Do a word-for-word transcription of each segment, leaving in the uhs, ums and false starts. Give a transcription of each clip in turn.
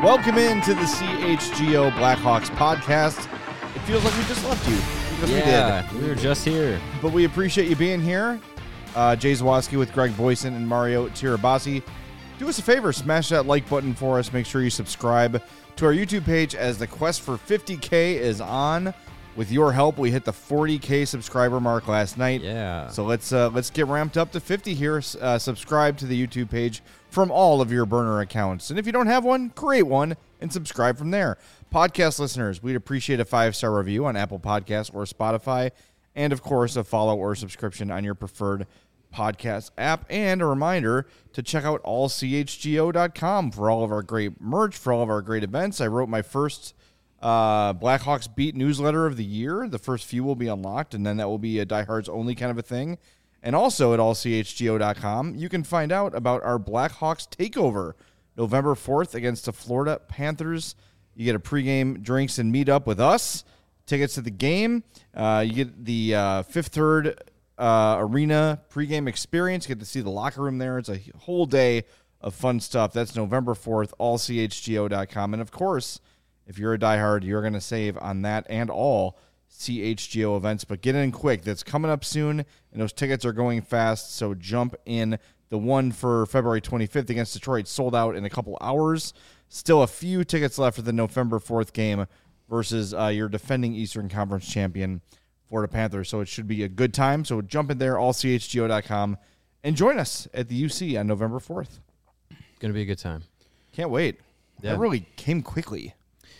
Welcome into the C H G O Blackhawks podcast. It feels like we just left you. Because yeah, we did. We were just here. But we appreciate you being here. Uh, Jay Zawoski with Greg Boyson and Mario Tirabassi. Do us a favor, smash that like button for us. Make sure you subscribe to our YouTube page as the quest for fifty K is on. With your help, we hit the forty K subscriber mark last night. Yeah. So let's uh, let's get ramped up to fifty here. Uh, subscribe to the YouTube page from all of your burner accounts. And if you don't have one, create one and subscribe from there. Podcast listeners, we'd appreciate a five-star review on Apple Podcasts or Spotify. And, of course, a follow or subscription on your preferred podcast app. And a reminder to check out all C H G O dot com for all of our great merch, for all of our great events. I wrote my first uh, Blackhawks Beat newsletter of the year. The first few will be unlocked, and then that will be a diehards only kind of a thing. And also at all C H G O dot com, you can find out about our Blackhawks takeover November fourth against the Florida Panthers. You get a pregame drinks and meet up with us, tickets to the game. Uh, you get the uh, Fifth Third uh, Arena pregame experience. You get to see the locker room there. It's a whole day of fun stuff. That's November fourth, all C H G O dot com. And, of course, if you're a diehard, you're going to save on that and all C H G O events. But get in quick. That's coming up soon, and those tickets are going fast, so jump in. The one for February twenty-fifth against Detroit sold out in a couple hours. Still a few tickets left for the November fourth game versus uh, your defending Eastern Conference champion, Florida Panthers. So it should be a good time. So jump in there, all C H G O dot com, and join us at the U C on November fourth. Going to be a good time. Can't wait. Yeah. That really came quickly.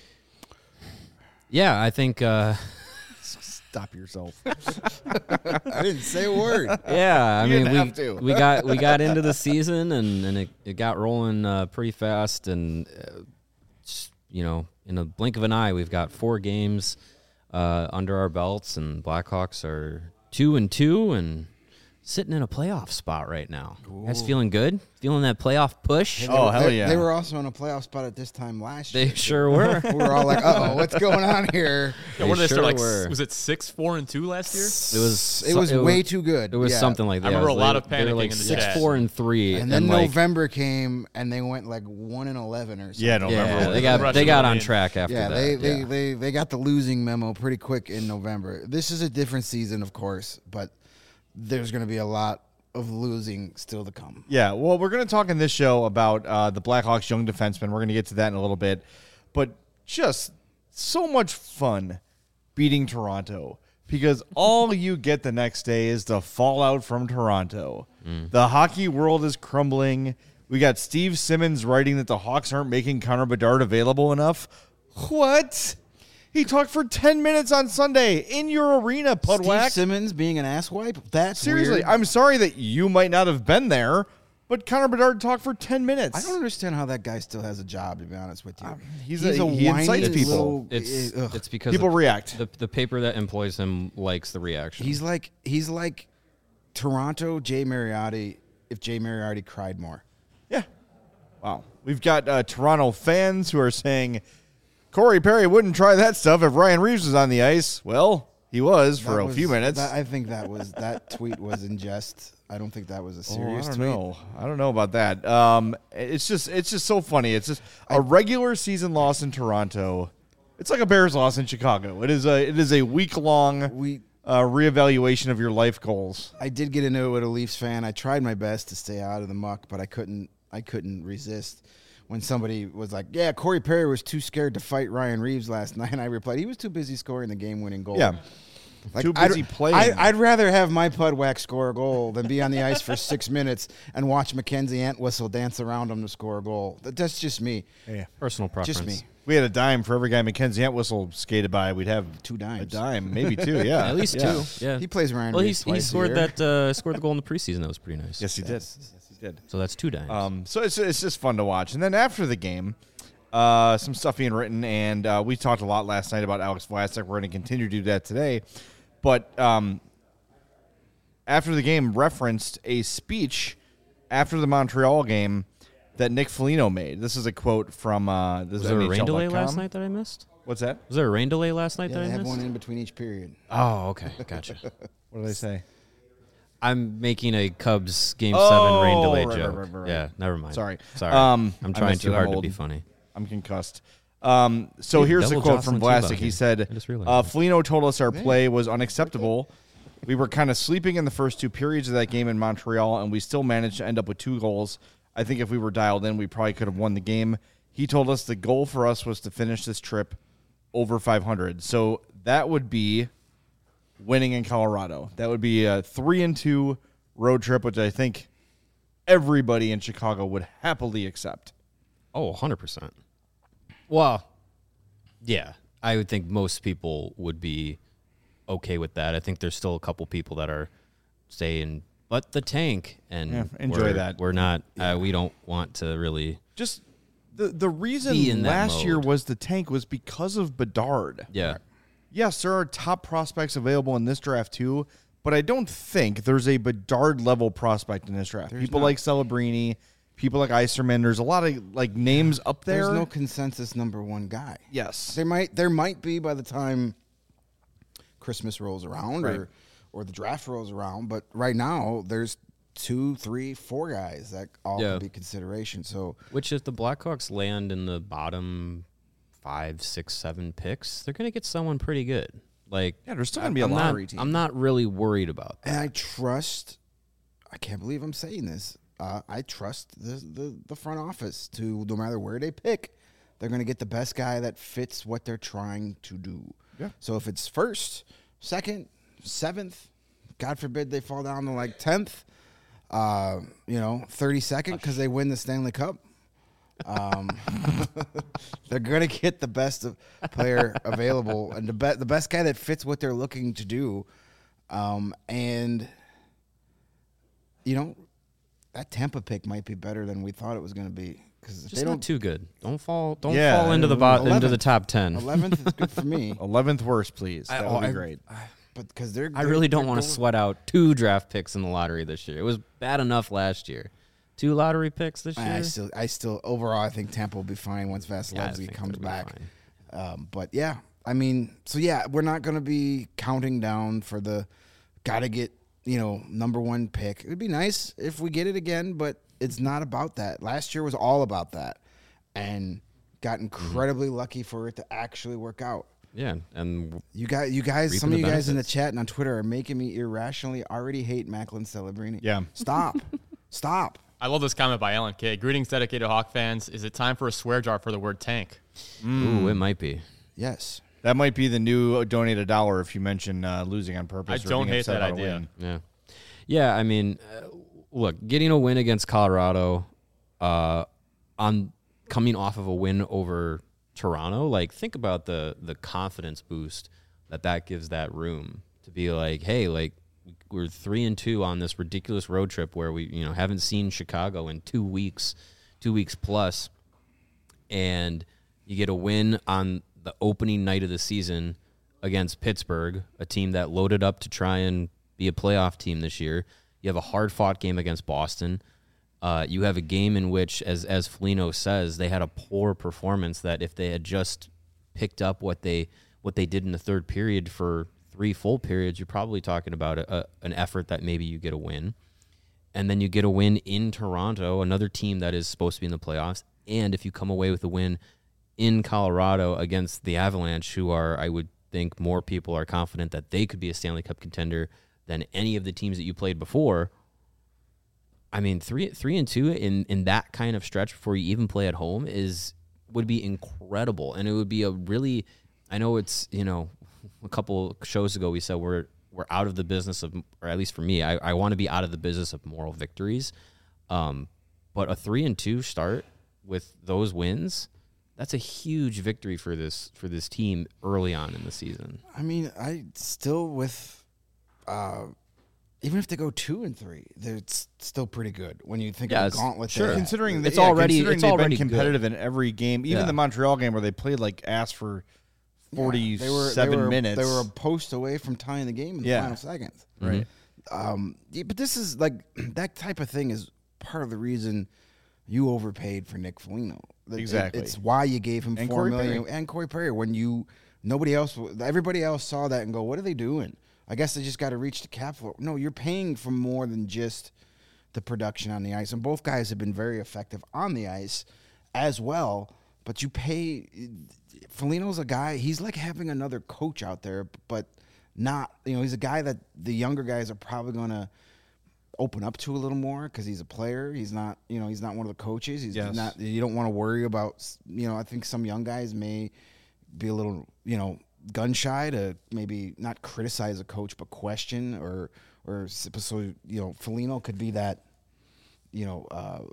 Yeah, I think... Uh, Stop yourself. I didn't say a word. yeah, I You mean, didn't we, have to. we got we got into the season, and, and it, it got rolling uh, pretty fast. And, uh, just, you know, in a blink of an eye, we've got four games uh, under our belts, and Blackhawks are two and two and sitting in a playoff spot right now. You guys feeling good? Feeling that playoff push? Oh, hell they, yeah. They were also in a playoff spot at this time last They year. sure were. We were all like, uh-oh, what's going on here? Yeah, what did they sure start, like, were. s- was it six, four, and two last year? It was It was so- way too good. It was Yeah. something like that. I remember It was a lot like- of they were panicking like in the six, chat. four, and three, And then like, November came, and they went like one and eleven or something. Yeah, November. yeah, was- they got Rushing they got the on lead. track after Yeah, that. they, they, yeah. they, they got the losing memo pretty quick in November. This is a different season, of course, but there's going to be a lot of losing still to come. Yeah, well, we're going to talk in this show about uh, the Blackhawks young defensemen. We're going to get to that in a little bit. But just so much fun beating Toronto because all you get the next day is the fallout from Toronto. Mm. The hockey world is crumbling. We got Steve Simmons writing that the Hawks aren't making Connor Bedard available enough. What? He talked for ten minutes on Sunday in your arena, Steve Pudwack. Simmons being an asswipe? That's Seriously, weird. I'm sorry that you might not have been there, but Connor Bedard talked for ten minutes. I don't understand how that guy still has a job, to be honest with you. he's a- he whiny incites people. little- It's ugh. it's because People the, react. The, the paper that employs him likes the reaction. He's like he's like Toronto Jay Mariotti if Jay Mariotti cried more. Yeah. Wow. We've got uh, Toronto fans who are saying Corey Perry wouldn't try that stuff if Ryan Reeves was on the ice. Well, he was for That a was- few minutes. that- I think that was that tweet was in jest. I don't think that was a Oh, serious I don't tweet. know. I don't know about that. Um, it's just it's just so funny. It's just a regular season loss in Toronto. It's like a Bears loss in Chicago. It is a it is a week long We uh, reevaluation of your life goals. I did get into it with a Leafs fan. I tried my best to stay out of the muck, but I couldn't I couldn't resist. When somebody was like, yeah, Corey Perry was too scared to fight Ryan Reeves last night, and I replied, he was too busy scoring the game-winning goal. Yeah. Like, Too busy I'd, playing. I, I'd rather have my Pudwack score a goal than be on the ice for six minutes and watch Mackenzie Entwistle dance around him to score a goal. That, that's just me. Yeah. personal preference. Just me. We had a dime for every guy Mackenzie Entwistle skated by. We'd have Two a dimes. dime, maybe two. Yeah, At least Yeah. two. Yeah. He plays Ryan well, he, Reeves he twice a scored year. that uh, scored the goal in the preseason. That was pretty nice. Yes, he did. Yes, he did. So that's two dimes. Um, so it's it's just fun to watch. And then after the game, uh, some stuff being written, and uh, we talked a lot last night about Alex Vlasic. We're going to continue to do that today. But um, after the game, referenced a speech after the Montreal game that Nick Foligno made. This is a quote from uh, this was is there a N H L rain delay dot com. last night that I missed? What's that? Was there a rain delay last night Yeah, that they I have missed? one in between each period. Oh, okay, gotcha. What did I say? I'm making a Cubs game Oh, seven rain delay right, joke. right, right, right, right. Yeah, never mind. Sorry. sorry. Um, I'm I trying missed it too on hard to be hold. funny. I'm concussed. Um, so Dude, here's the double quote from Jocelyn Vlasic. Tebow He here. said, I just realized uh, that. Foligno told us our play was unacceptable. We were kind of sleeping in the first two periods of that game in Montreal, and we still managed to end up with two goals. I think if we were dialed in, we probably could have won the game. He told us the goal for us was to finish this trip over five hundred. So that would be winning in Colorado. That would be a three and two road trip, which I think everybody in Chicago would happily accept. Oh, one hundred percent. Well, yeah, I would think most people would be okay with that. I think there's still a couple people that are saying, but the tank, and Yeah, enjoy we're, that. We're not, uh, we don't want to really. Just the the reason Be in that last year mode. was the tank was because of Bedard. Yeah. Yes, there are top prospects available in this draft too, but I don't think there's a Bedard level prospect in this draft. People not. like Celebrini, people like Eiserman. There's a lot of like names up there. There's no consensus number one guy. yes, There might there might be by the time Christmas rolls around Right. or or the draft rolls around, but right now there's two, three, four guys that all Yeah. could be consideration. So Which, if the Blackhawks land in the bottom five, six, seven picks, they're going to get someone pretty good. Like, yeah, there's still gonna be a I'm lottery not, team. I'm not really worried about that. and I trust. I can't believe I'm saying this. Uh, I trust the, the the front office to no matter where they pick, they're going to get the best guy that fits what they're trying to do. Yeah. So if it's first, second, seventh, God forbid they fall down to like tenth, uh, you know, thirty-second because they win the Stanley Cup. Um, they're gonna get the best of player available and the be- the best guy that fits what they're looking to do, um, and you know that Tampa pick might be better than we thought it was gonna be because Just they not don't. too good. Don't fall. Don't Yeah, fall into the bot, into the eleventh. top ten. eleventh is good for me, eleventh worst, please. I- That oh, would be I- great. but because they're, I they're- really don't they're want to going- sweat out two draft picks in the lottery this year. It was bad enough last year. Two lottery picks this year. I still, I still, overall, I think Tampa will be fine once Yeah, I Vasilevsky think comes they'll be back. fine. Um, but yeah, I mean, so yeah, we're not going to be counting down for the got to get, you know, number one pick. It would be nice if we get it again, but it's not about that. Last year was all about that, and got incredibly lucky for it to actually work out. Yeah, and You guys, you guys, Reaping some of the you guys in the benefits. chat and on Twitter are making me irrationally already hate Macklin Celebrini. Yeah. Stop, stop. I love this comment by Alan K. Greetings, dedicated Hawk fans. Is it time for a swear jar for the word tank? ooh, it might be. Yes. That might be the new donate a dollar if you mention uh, losing on purpose. I or don't being hate upset that about a idea. win. Yeah, yeah. I mean, uh, look, getting a win against Colorado, uh, on coming off of a win over Toronto, like think about the the confidence boost that that gives that room to be like, hey, like we're three and two on this ridiculous road trip where we you know haven't seen Chicago in two weeks, two weeks plus, and you get a win on the opening night of the season against Pittsburgh, a team that loaded up to try and be a playoff team this year. You have a hard-fought game against Boston. Uh, you have a game in which, as as Foligno says, they had a poor performance that if they had just picked up what they what they did in the third period for three full periods, you're probably talking about a, a, an effort that maybe you get a win. And then you get a win in Toronto, another team that is supposed to be in the playoffs. And if you come away with a win in Colorado against the Avalanche, who are, I would think more people are confident that they could be a Stanley Cup contender than any of the teams that you played before. I mean, three three and two in, in that kind of stretch before you even play at home is would be incredible. And it would be a really, I know it's, you know, a couple shows ago we said we're we're out of the business of, or at least for me, I, I want to be out of the business of moral victories. Um, but a three and two start with those wins, that's a huge victory for this for this team early on in the season. I mean, I still with, uh, even if they go two and three, they're s- still pretty good when you think Yeah, of the it's- gauntlet. sure. they had. Considering It's yeah, already- considering it's they've already been good. competitive in every game, even Yeah. the Montreal game where they played like ass for Yeah, forty-seven they were, they were, minutes. They were a post away from tying the game in the Yeah. final seconds. right. Um, yeah, but this is like that type of thing is part of the reason you overpaid for Nick Foligno. It- Exactly. it's why you gave him And four Corey million Perry. and Corey Perry when you nobody else, everybody else saw that and go, what are they doing? I guess they just got to reach the cap floor. No, you're paying for more than just the production on the ice, and both guys have been very effective on the ice as well. but you pay. Foligno's a guy. He's like having another coach out there, but not. You know, he's a guy that the younger guys are probably going to open up to a little more because he's a player. He's not. You know, he's not one of the coaches. He's Yes. not. You don't want to worry about. You know, I think some young guys may be a little. You know, gun shy to maybe not criticize a coach, but question or or so. You know, Foligno could be that. You know, uh,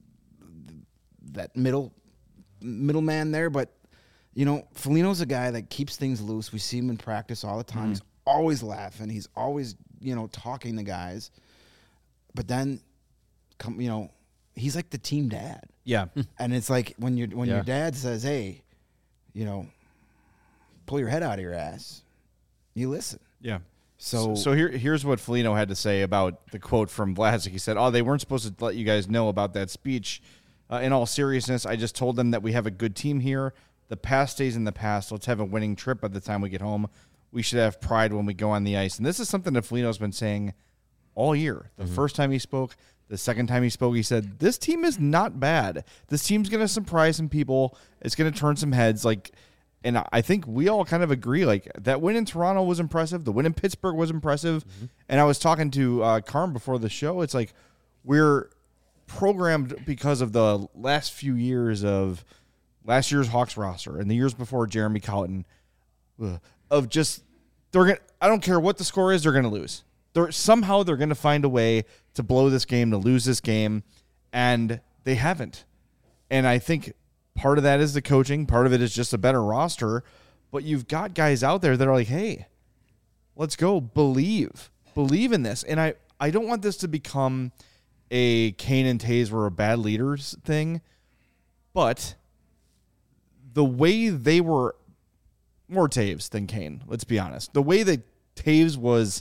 that middle middleman there, but. You know, Foligno's a guy that keeps things loose. We see him in practice all the time. Mm-hmm. He's always laughing. He's always, you know, talking to guys. But then, come, you know, he's like the team dad. Yeah. And it's like when your when Yeah. your dad says, "Hey, you know, pull your head out of your ass," you listen. Yeah. So, So here, here's what Foligno had to say about the quote from Vlasic. He said, "Oh, they weren't supposed to let you guys know about that speech. Uh, in all seriousness, I just told them that we have a good team here. The past stays in the past. Let's have a winning trip by the time we get home. We should have pride when we go on the ice." And this is something that Foligno's been saying all year. The mm-hmm. first time he spoke, the second time he spoke, he said, this team is not bad. This team's going to surprise some people. It's going to turn some heads. Like, and I think we all kind of agree, like, that win in Toronto was impressive. The win in Pittsburgh was impressive. Mm-hmm. And I was talking to uh, Carm before the show. It's like we're programmed because of the last few years of – last year's Hawks roster and the years before Jeremy Colliton, ugh, of just they're gonna. I don't care what the score is, they're gonna lose. They're somehow they're gonna find a way to blow this game, to lose this game, and they haven't. And I think part of that is the coaching, part of it is just a better roster. But you've got guys out there that are like, hey, let's go, believe, believe in this. And I, I don't want this to become a Kane and Toews were bad leaders thing, but the way they were more Toews than Kane, let's be honest. The way that Toews was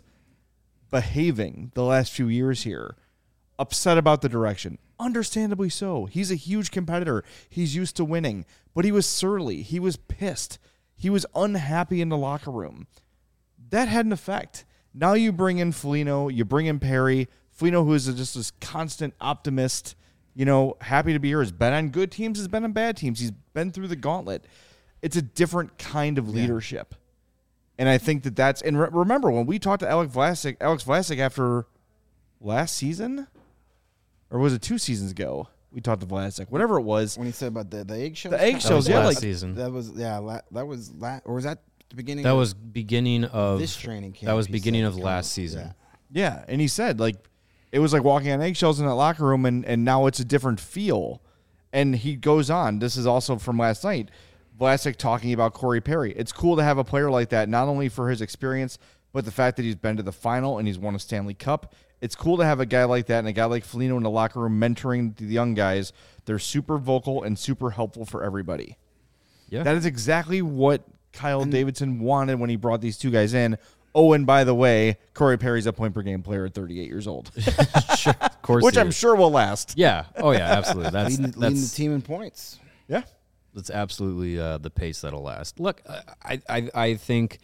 behaving the last few years here, upset about the direction, understandably so. He's a huge competitor. He's used to winning, but he was surly. He was pissed. He was unhappy in the locker room. That had an effect. Now you bring in Foligno, you bring in Perry. Foligno, who is just this constant optimist, you know, happy to be here, has been on good teams, has been on bad teams. He's been through the gauntlet. It's a different kind of leadership. Yeah. And I think that that's, and re- remember when we talked to Alex Vlasic, Alex Vlasic after last season, or was it two seasons ago? We talked to Vlasic, whatever it was. When he said about the, the eggshells? The eggshells, yeah. Last Like, season. That was, yeah, la- that was, la- or was that the beginning That of was beginning of this training camp? That was he beginning said of to last come- season. Yeah. Yeah, and he said, like, it was like walking on eggshells in that locker room, and, and now it's a different feel. And he goes on. This is also from last night. Vlasic talking about Corey Perry. It's cool to have a player like that, not only for his experience, but the fact that he's been to the final and he's won a Stanley Cup. It's cool to have a guy like that and a guy like Foligno in the locker room mentoring the young guys. They're super vocal and super helpful for everybody. Yeah. That is exactly what Kyle and Davidson wanted when he brought these two guys in. Oh, and by the way, Corey Perry's a point-per-game player at thirty-eight years old. Sure, of course, Which he I'm is. sure will last. Yeah. Oh, yeah. Absolutely. That's leading, that's leading the team in points. Yeah. that's absolutely uh, the pace that'll last. Look, I, I I think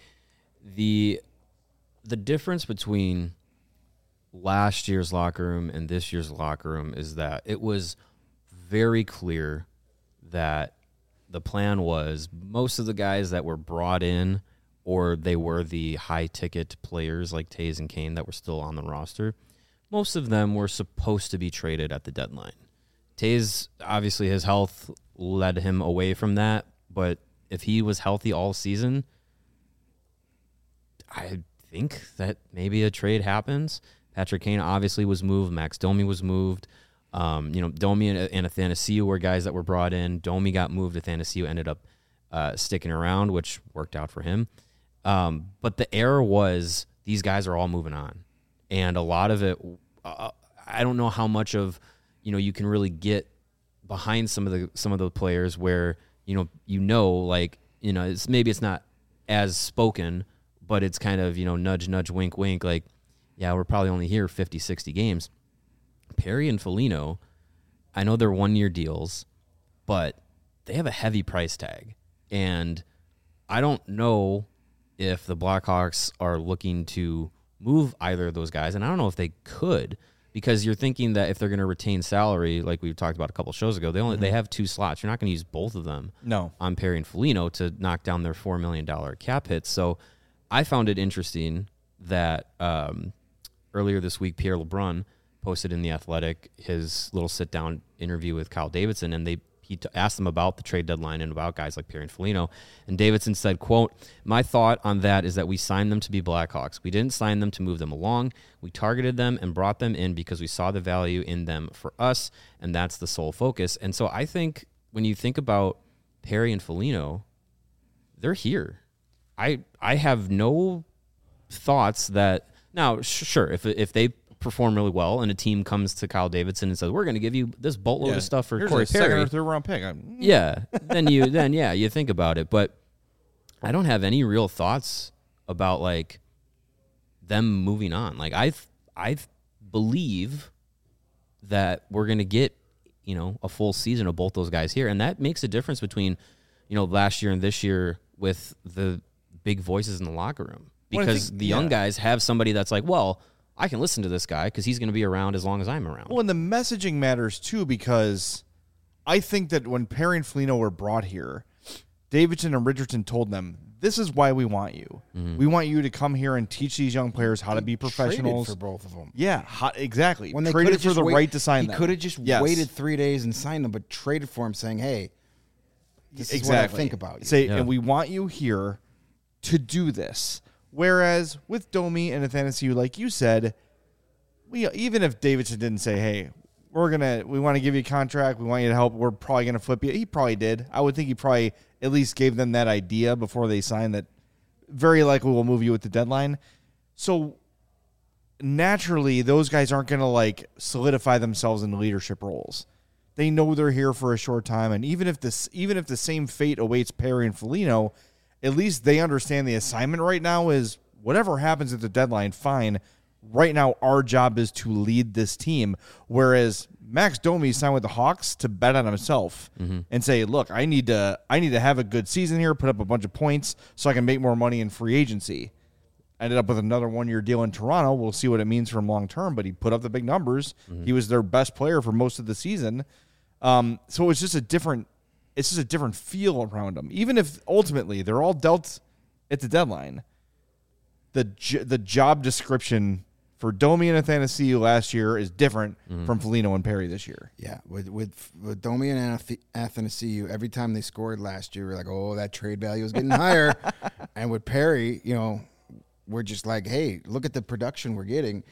the the difference between last year's locker room and this year's locker room is that it was very clear that the plan was most of the guys that were brought in, or they were the high-ticket players like Toews and Kane that were still on the roster, most of them were supposed to be traded at the deadline. Toews, obviously, his health led him away from that, but if he was healthy all season, I think that maybe a trade happens. Patrick Kane obviously was moved. Max Domi was moved. Um, you know, Domi and, and Athanasiou were guys that were brought in. Domi got moved. Athanasiou ended up uh, sticking around, which worked out for him. Um, but the error was these guys are all moving on. And a lot of it, uh, I don't know how much of, you know, you can really get behind some of the some of the players where, you know, you know, like, you know, it's maybe it's not as spoken, but it's kind of, you know, nudge, nudge, wink, wink. Like, yeah, we're probably only here fifty, sixty games. Perry and Foligno, I know they're one-year deals, but they have a heavy price tag. And I don't know if the Blackhawks are looking to move either of those guys, and I don't know if they could, because you're thinking that if they're going to retain salary, like we talked about a couple shows ago, they only mm-hmm. they have two slots. You're not going to use both of them. No, on Perry and Foligno to knock down their four million dollar cap hits. So I found it interesting that um, earlier this week, Pierre LeBrun posted in The Athletic his little sit down interview with Kyle Davidson, and they he t- asked them about the trade deadline and about guys like Perry and Foligno. And Davidson said, quote, "My thought on that is that we signed them to be Blackhawks. We didn't sign them to move them along. We targeted them and brought them in because we saw the value in them for us, and that's the sole focus." And so I think when you think about Perry and Foligno, they're here. I I have no thoughts that now sh- sure if if they perform really well and a team comes to Kyle Davidson and says, "We're going to give you this boatload yeah. of stuff for Here's Corey a Perry," second or third round pick. I'm, yeah, then you then yeah you think about it, but I don't have any real thoughts about like them moving on. Like I I believe that we're going to get you know a full season of both those guys here, and that makes a difference between you know last year and this year with the big voices in the locker room, because well, think, the young yeah. guys have somebody that's like, well, I can listen to this guy because he's going to be around as long as I'm around. Well, and the messaging matters too, because I think that when Perry and Foligno were brought here, Davidson and Richardson told them, "This is why we want you. Mm-hmm. We want you to come here and teach these young players how he to be professionals." For both of them, yeah, how, exactly. When they traded for the wait, right to sign he them. He could have just yes. waited three days and signed them, but traded for him, saying, "Hey, this exactly. is what I think about you." Say, yeah. and we want you here to do this. Whereas with Domi and Athanasiou, like you said, we even if Davidson didn't say, "Hey, we're gonna we want to give you a contract, we want you to help, we're probably gonna flip you," he probably did. I would think he probably at least gave them that idea before they signed that. Very likely we'll move you with the deadline. So naturally, those guys aren't gonna like solidify themselves in leadership roles. They know they're here for a short time, and even if this even if the same fate awaits Perry and Foligno, at least they understand the assignment right now is whatever happens at the deadline, fine. Right now, our job is to lead this team. Whereas Max Domi signed with the Hawks to bet on himself mm-hmm. and say, "Look, I need to, I need to have a good season here, put up a bunch of points, so I can make more money in free agency." Ended up with another one-year deal in Toronto. We'll see what it means for him long term. But he put up the big numbers. Mm-hmm. He was their best player for most of the season. Um, so it's just a different, it's just a different feel around him. Even if ultimately they're all dealt at the deadline, the the job description for Domi and Athanasiou last year is different mm-hmm. from Foligno and Perry this year. Yeah, with with, with Domi and Athanasiou, every time they scored last year, we're like, "Oh, that trade value is getting higher." And with Perry, you know, we're just like, "Hey, look at the production we're getting."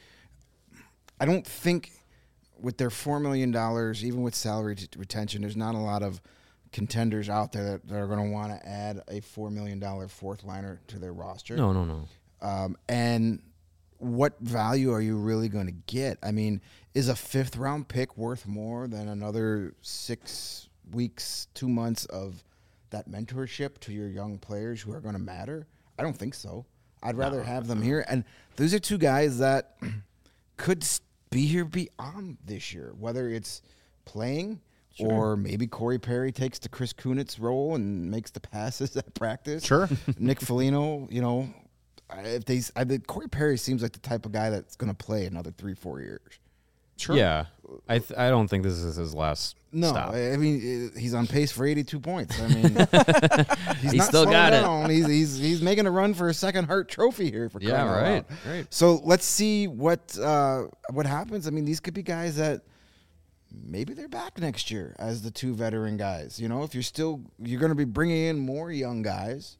I don't think with their four million dollars, even with salary t- retention, there's not a lot of contenders out there that, that are going to want to add a four million dollars fourth liner to their roster. No, no, no. Um, and what value are you really going to get? I mean, is a fifth round pick worth more than another six weeks, two months of that mentorship to your young players who are going to matter? I don't think so. I'd rather no. have them here. And those are two guys that could be here beyond this year, whether it's playing sure. or maybe Corey Perry takes the Chris Kunitz role and makes the passes at practice. Sure. Nick Foligno, you know, if they, I mean, Corey Perry seems like the type of guy that's going to play another three, four years. Sure. Yeah, I th- I don't think this is his last. No, stop. I mean he's on pace for eighty-two points. I mean, he's, he's not still got down. it. He's he's he's making a run for a second Hart Trophy here for yeah, right, out. right. So let's see what uh, what happens. I mean, these could be guys that maybe they're back next year as the two veteran guys. You know, if you're still you're going to be bringing in more young guys.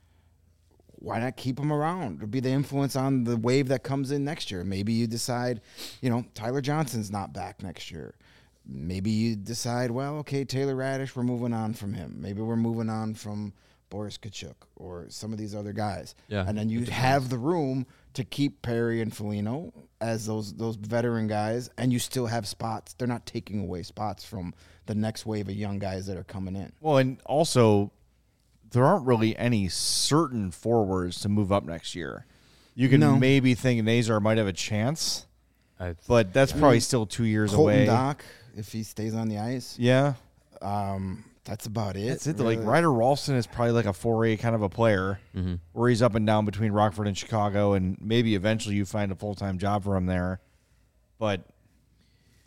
Why not keep them around? Or be the influence on the wave that comes in next year. Maybe you decide, you know, Tyler Johnson's not back next year. Maybe you decide, well, okay, Taylor Radish, we're moving on from him. Maybe we're moving on from Boris Kachuk or some of these other guys. Yeah, and then you have the room to keep Perry and Foligno as those those veteran guys, and you still have spots. They're not taking away spots from the next wave of young guys that are coming in. Well, and also there aren't really any certain forwards to move up next year. You can no. maybe think Nazar might have a chance, I, but that's probably I mean, still two years Colton away. Dock, if he stays on the ice. Yeah. Um, that's about it. That's it. Really. Like Ryder Ralston is probably like a four A kind of a player mm-hmm. where he's up and down between Rockford and Chicago, and maybe eventually you find a full-time job for him there. But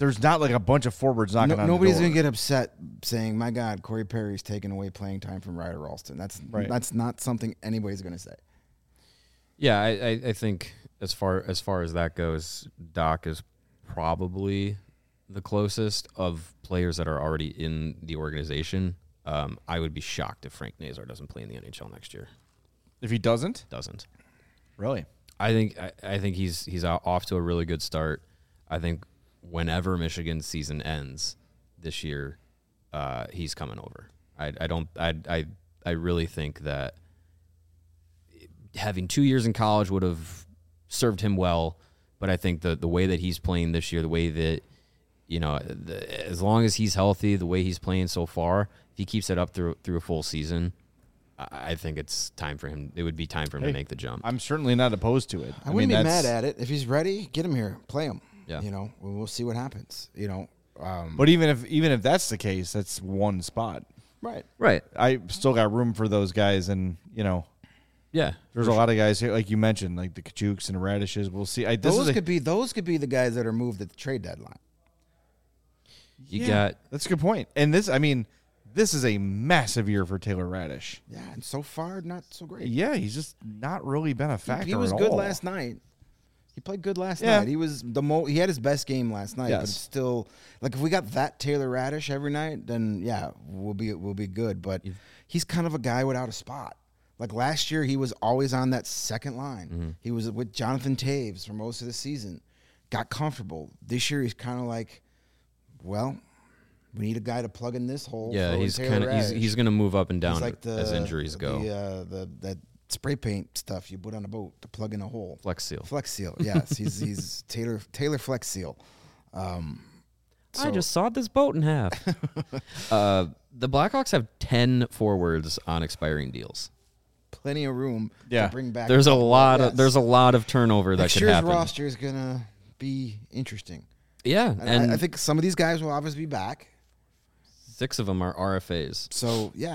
there's not like a bunch of forwards knocking No, on nobody's the door. going to get upset saying, my God, Corey Perry's taking away playing time from Ryder Ralston. That's Right. that's not something anybody's going to say. Yeah, I, I, I think as far as far as that goes, Doc is probably the closest of players that are already in the organization. Um, I would be shocked if Frank Nazar doesn't play in the N H L next year. If he doesn't, Doesn't. really. I think I, I think he's he's o- off to a really good start. I think whenever Michigan's season ends this year, uh, he's coming over. I, I don't I, I I really think that having two years in college would have served him well, but I think the the way that he's playing this year, the way that you know, the, as long as he's healthy, the way he's playing so far, if he keeps it up through through a full season, I, I think it's time for him. It would be time for him Hey, to make the jump. I'm certainly not opposed to it. I, I, wouldn't mean, be that's, mad at it. If he's ready, get him here. Play him. Yeah. You know, we'll, we'll see what happens. You know. Um, But even if even if that's the case, that's one spot. right. Right. I still got room for those guys, and you know, Yeah. there's a lot of guys here, like you mentioned, like the Kachuks and Radishes. We'll see. I, this Those is a, could be those could be the guys that are moved at the trade deadline. You yeah, got that's a good point. And this, I mean, this is a massive year for Taylor Radish. Yeah, and so far not so great. Yeah, he's just not really been a factor. He was at good all. last night. He played good last Yeah. night. He was the mo. He had his best game last night, but Yes. it's still like if we got that Taylor Radish every night, then yeah, we'll be we'll be good. But he's kind of a guy without a spot. Like last year, he was always on that second line. Mm-hmm. He was with Jonathan Taves for most of the season. Got comfortable. This year, he's kind of like, well, we need a guy to plug in this hole. yeah. throw in He's Taylor kind of he's Radish. he's going to move up and down He's like the, as injuries go. The, uh, the that spray paint stuff you put on a boat to plug in a hole. Flex seal. Flex Seal, yes, he's he's Taylor Taylor Flex Seal. Um, I so- just sawed this boat in half. uh, the Blackhawks have ten forwards on expiring deals. plenty of room Yeah. to bring back. There's a lot Yes. of there's a lot of turnover that Next could year's happen. roster is gonna be interesting. Yeah, And, and I, I think some of these guys will obviously be back. six of them are R F As. So yeah,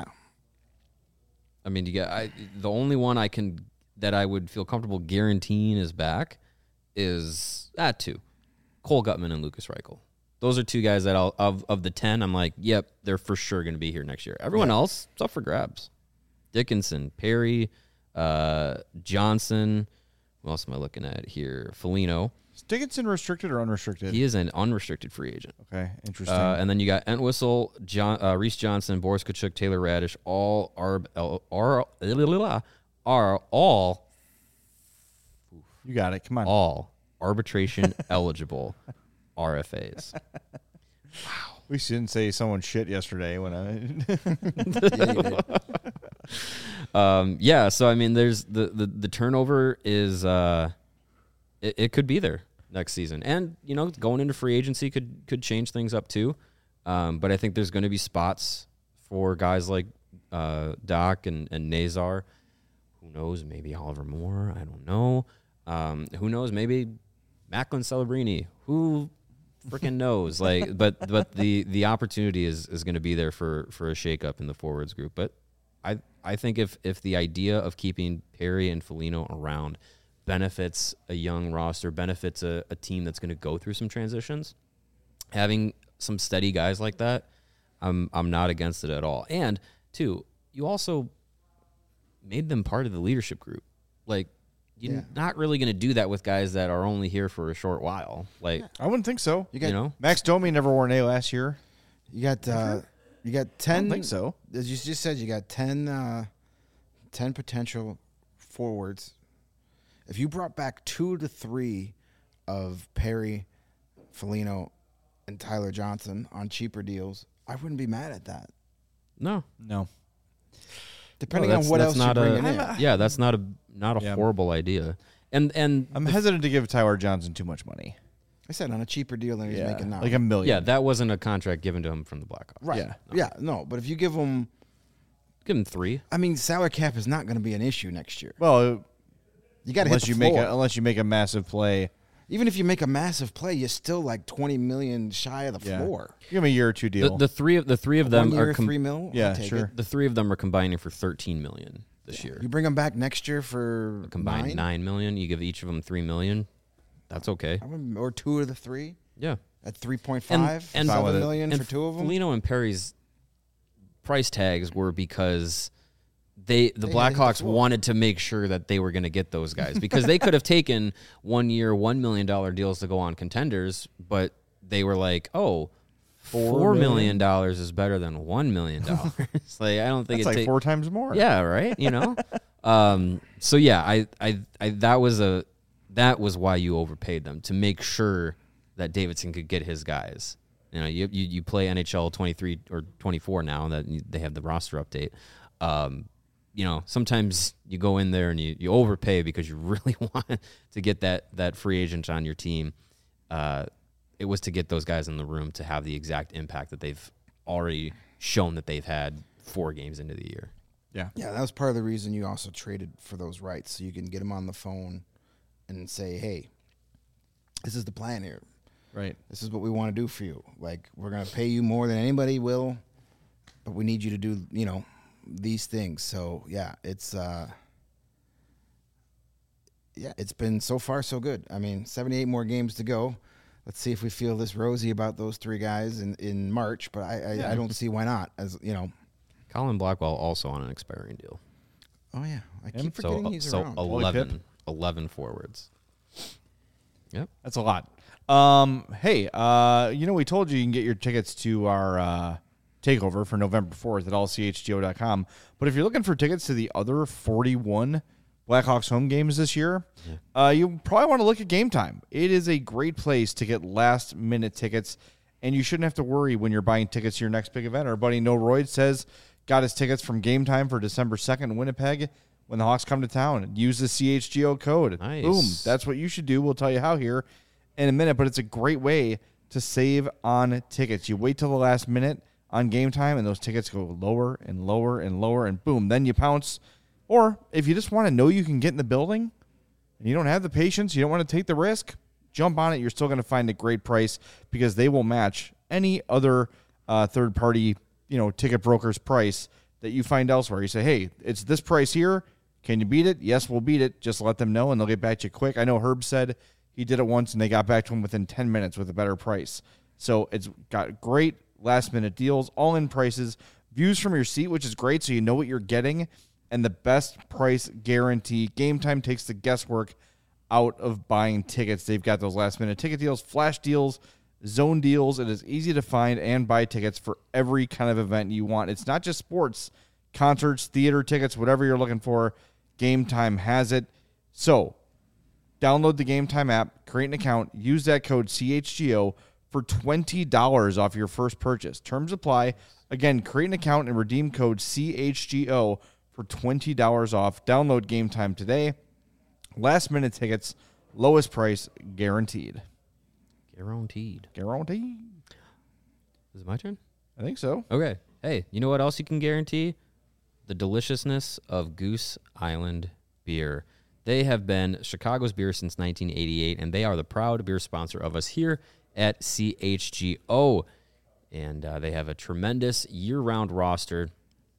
I mean, you get I the only one I can that I would feel comfortable guaranteeing is back is that two, Cole Gutman and Lucas Reichel. Those are two guys that I'll of of the ten. I'm like, yep, they're for sure going to be here next year. Everyone else, it's up for grabs. Dickinson, Perry, uh, Johnson. Who else am I looking at here? Foligno. Is Dickinson restricted or unrestricted? He is an unrestricted free agent. Okay, interesting. Uh, and then you got Entwistle, John, uh, Reese Johnson, Boris Kachuk, Taylor Radish, all are are are all you got it. Come on. all arbitration eligible R F As. We shouldn't say someone shit yesterday when I. yeah, you did. Um, yeah, so I mean, there's the the, the turnover is uh, it, it could be there next season, and you know, going into free agency could could change things up too. Um, but I think there's going to be spots for guys like uh, Doc and and Nazar. Who knows? Maybe Oliver Moore. I don't know. Um, who knows? Maybe Macklin Celebrini. Who freaking knows? Like, but but the the opportunity is is going to be there for for a shakeup in the forwards group. But I I think if if the idea of keeping Perry and Foligno around benefits a young roster, benefits a, a team that's going to go through some transitions, having some steady guys like that, I'm I'm not against it at all. And two, you also made them part of the leadership group. Like, you're Yeah. not really going to do that with guys that are only here for a short while. Like, I wouldn't think so. You got you know, Max Domi never wore an A last year. you got uh, you got ten. I don't think so. As you just said, you got ten, uh, ten potential forwards. If you brought back two to three of Perry, Foligno, and Tyler Johnson on cheaper deals, I wouldn't be mad at that. no. No. Depending No, on that's- what that's else you're not a- bringing in. Yeah, that's not a not a Yeah. horrible idea. And and I'm hesitant to give Tyler Johnson too much money. I said on a cheaper deal than he's Yeah, making now. like a million. yeah, that wasn't a contract given to him from the Blackhawks. right. yeah. Yeah. No, but if you give him, Give him three. I mean, salary cap is not going to be an issue next year. Well, You got to hit unless the you floor. make a, unless you make a massive play, Even if you make a massive play, you're still like twenty million shy of the yeah. floor. Give him a year or two The, deal. the three of the three of them One year, are com- three mil. I'll Yeah, take sure. it. the three of them are combining for thirteen million this year. You bring them back next year for Combined nine, nine million. You give each of them three million. That's okay. I would- or two of the three. Yeah. at three point And- five, and- seven Fine with it. million And for two of them. Foligno and Perry's price tags were because they the They had to hit the Blackhawks floor. wanted to make sure that they were going to get those guys because they could have taken one year, one million dollar deals to go on contenders, but they were like, oh, four million dollars is better than one million dollars. Like I don't think It's it like take- four times more. Yeah, right. You know, um, so yeah, I, I, I, that was a, that was why you overpaid them to make sure that Davidson could get his guys. You know, you you, you play N H L twenty-three or twenty-four now that you- they have the roster update. Um, you know, sometimes you go in there and you, you overpay because you really want to get that that free agent on your team. Uh, it was to get those guys in the room to have the exact impact that they've already shown that they've had four games into the year. Yeah. Yeah, that was part of the reason you also traded for those rights, so you can get them on the phone and say, hey, this is the plan here. Right. This is what we want to do for you. Like, we're going to pay you more than anybody will, but we need you to do, you know, these things. So, yeah, it's uh, yeah, it's been so far so good. I mean, seventy-eight more games to go. Let's see if we feel this rosy about those three guys in, in March, but I, I, Yeah. I don't see why not. As you know, Colin Blackwell also on an expiring deal. oh, yeah, I Him? keep forgetting So, he's so around. eleven, eleven forwards. Yep. That's a lot. Um, hey, uh, you know, we told you you can get your tickets to our uh, takeover for November fourth at all c h g o dot com. But if you're looking for tickets to the other forty-one Blackhawks home games this year, uh, you probably want to look at Game Time. It is a great place to get last-minute tickets, and you shouldn't have to worry when you're buying tickets to your next big event. Our buddy No Royd says got his tickets from Game Time for December second in Winnipeg when the Hawks come to town. Use the C H G O code. Nice. Boom. That's what you should do. We'll tell you how here in a minute, but it's a great way to save on tickets. You wait till the last minute on Game Time, and those tickets go lower and lower and lower, and boom, then you pounce. Or if you just want to know you can get in the building and you don't have the patience, you don't want to take the risk, jump on it. You're still going to find a great price because they will match any other uh, third-party, you know, ticket broker's price that you find elsewhere. You say, hey, it's this price here. Can you beat it? Yes, we'll beat it. Just let them know, and they'll get back to you quick. I know Herb said he did it once, and they got back to him within ten minutes with a better price. So it's got great last-minute deals, all-in prices, views from your seat, which is great, so you know what you're getting, and the best price guarantee. Game Time takes the guesswork out of buying tickets. They've got those last-minute ticket deals, flash deals, zone deals. It is easy to find and buy tickets for every kind of event you want. It's not just sports, concerts, theater tickets, whatever you're looking for. Game Time has it. So download the Game Time app, create an account, use that code C H G O for twenty dollars off your first purchase. Terms apply. Again, create an account and redeem code C H G O for twenty dollars off. Download Game Time today. Last minute tickets, lowest price guaranteed. Guaranteed. Guaranteed. Is it my turn? I think so. Okay. Hey, you know what else you can guarantee? The deliciousness of Goose Island beer. They have been Chicago's beer since nineteen eighty-eight, and they are the proud beer sponsor of us here at C H G O. And uh, they have a tremendous year-round roster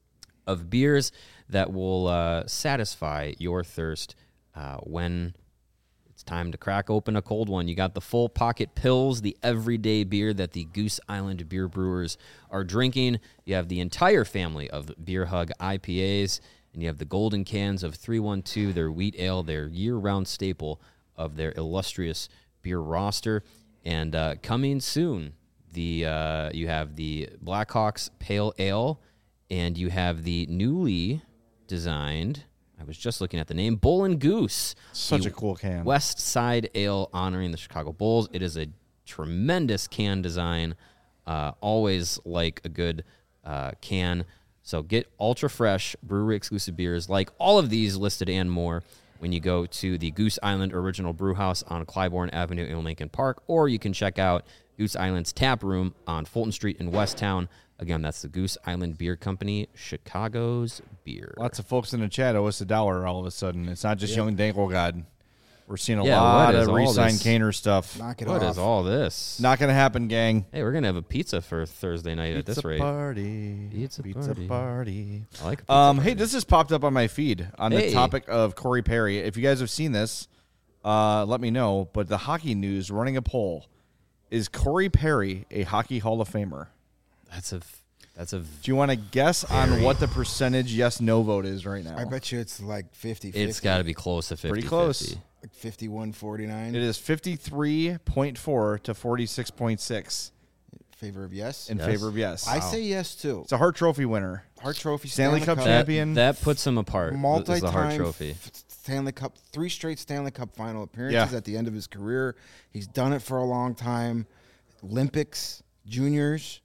of beers that will uh, satisfy your thirst uh, when it's time to crack open a cold one. You got the full pocket pills, the everyday beer that the Goose Island beer brewers are drinking. You have the entire family of Beer Hug I P As, and you have the golden cans of three one two, their wheat ale, their year-round staple of their illustrious beer roster. And uh, coming soon, the uh, you have the Blackhawks Pale Ale, and you have the newly designed, I was just looking at the name, Bull and Goose. Such the a cool can. West Side Ale honoring the Chicago Bulls. It is a tremendous can design. Uh, always like a good uh, can. So get ultra fresh brewery exclusive beers like all of these listed and more when you go to the Goose Island Original Brew House on Clybourne Avenue in Lincoln Park, or you can check out Goose Island's tap room on Fulton Street in Westtown. Again, that's the Goose Island Beer Company, Chicago's beer. Lots of folks in the chat owe us a dollar all of a sudden. It's not just Young Dangle God. We're seeing a Yeah, lot what is of all re-sign this? Kaner stuff. Knock it What off. is all this? Not going to happen, gang. Hey, we're going to have a pizza for Thursday night at this Pizza rate. party. Pizza Pizza party. party. I like a pizza Um, hey, party. this just popped up on my feed on the Hey. topic of Corey Perry. If you guys have seen this, uh, let me know. But the Hockey News running a poll. is Corey Perry a Hockey Hall of Famer? That's a that's a Do you want to guess on what the percentage yes/no vote is right now? I bet you it's like fifty. it's got to be close to fifty. Pretty close. like fifty-one forty-nine. It is fifty-three point four to forty-six point six Favor of yes. in Yes. favor of yes. I say yes too. It's a Hart Trophy winner. Hart Trophy, Stanley Cup That, champion. that puts him apart. Is multi-time the Hart Trophy. f- Stanley Cup, three straight Stanley Cup final appearances Yeah. at the end of his career. He's done it for a long time. Olympics, juniors.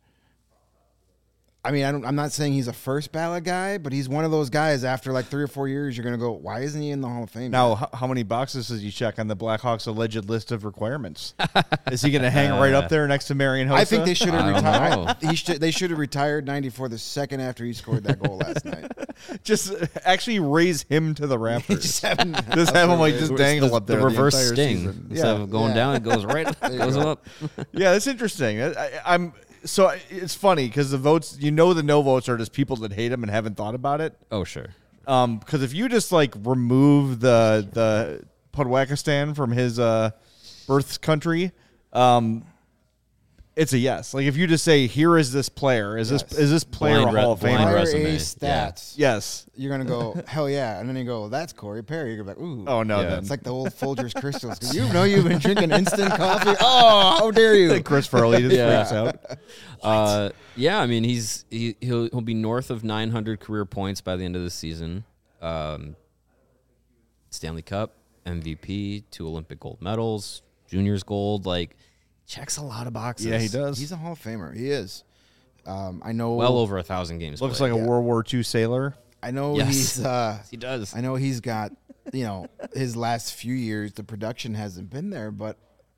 I mean, I don't, I'm not saying he's a first ballot guy, but he's one of those guys. After like three or four years, you're gonna go, why isn't he in the Hall of Fame? Now, yet?" h- how many boxes does he check on the Blackhawks' alleged list of requirements? Is he going to hang right up there next to Marion Hossa? I think they should have I don't retired. know. He should. They should have retired ninety-four the second after he scored that goal last night. just actually raise him to the Raptors. Just have him, Just have him like just dangle the, up there the reverse entire sting. season. Instead Yeah. of going Yeah. down, it goes right, you goes go. up. Yeah, that's interesting. I, I, I'm so I- it's funny because the votes, you know, the no votes are just people that hate him and haven't thought about it. Oh sure. Um, because if you just like remove the the Podwakistan from his uh birth country, um, it's a yes. Like if you just say, "Here is this player," is Yes. this is this player Blind a re- Hall of blind Famer? Fire resume. A Yeah. stats. Yes. You're gonna go, hell yeah, and then you go, that's Corey Perry. You're gonna be like, ooh. Oh no, Yeah. then It's like the old Folgers crystals. 'Cause you know you've been drinking instant coffee. Oh, how dare you? Chris Farley just Yeah. freaks out. Uh, yeah, I mean he's he he'll he'll be north of nine hundred career points by the end of the season. Um, Stanley Cup M V P, two Olympic gold medals, juniors gold. Like checks a lot of boxes. Yeah, he does. He's a Hall of Famer. He is. Um, I know. Well over a thousand games. Looks played. like a World War Two sailor. I know Yes. he's. Uh, he does. I know he's got. You know, his last few years, the production hasn't been there, but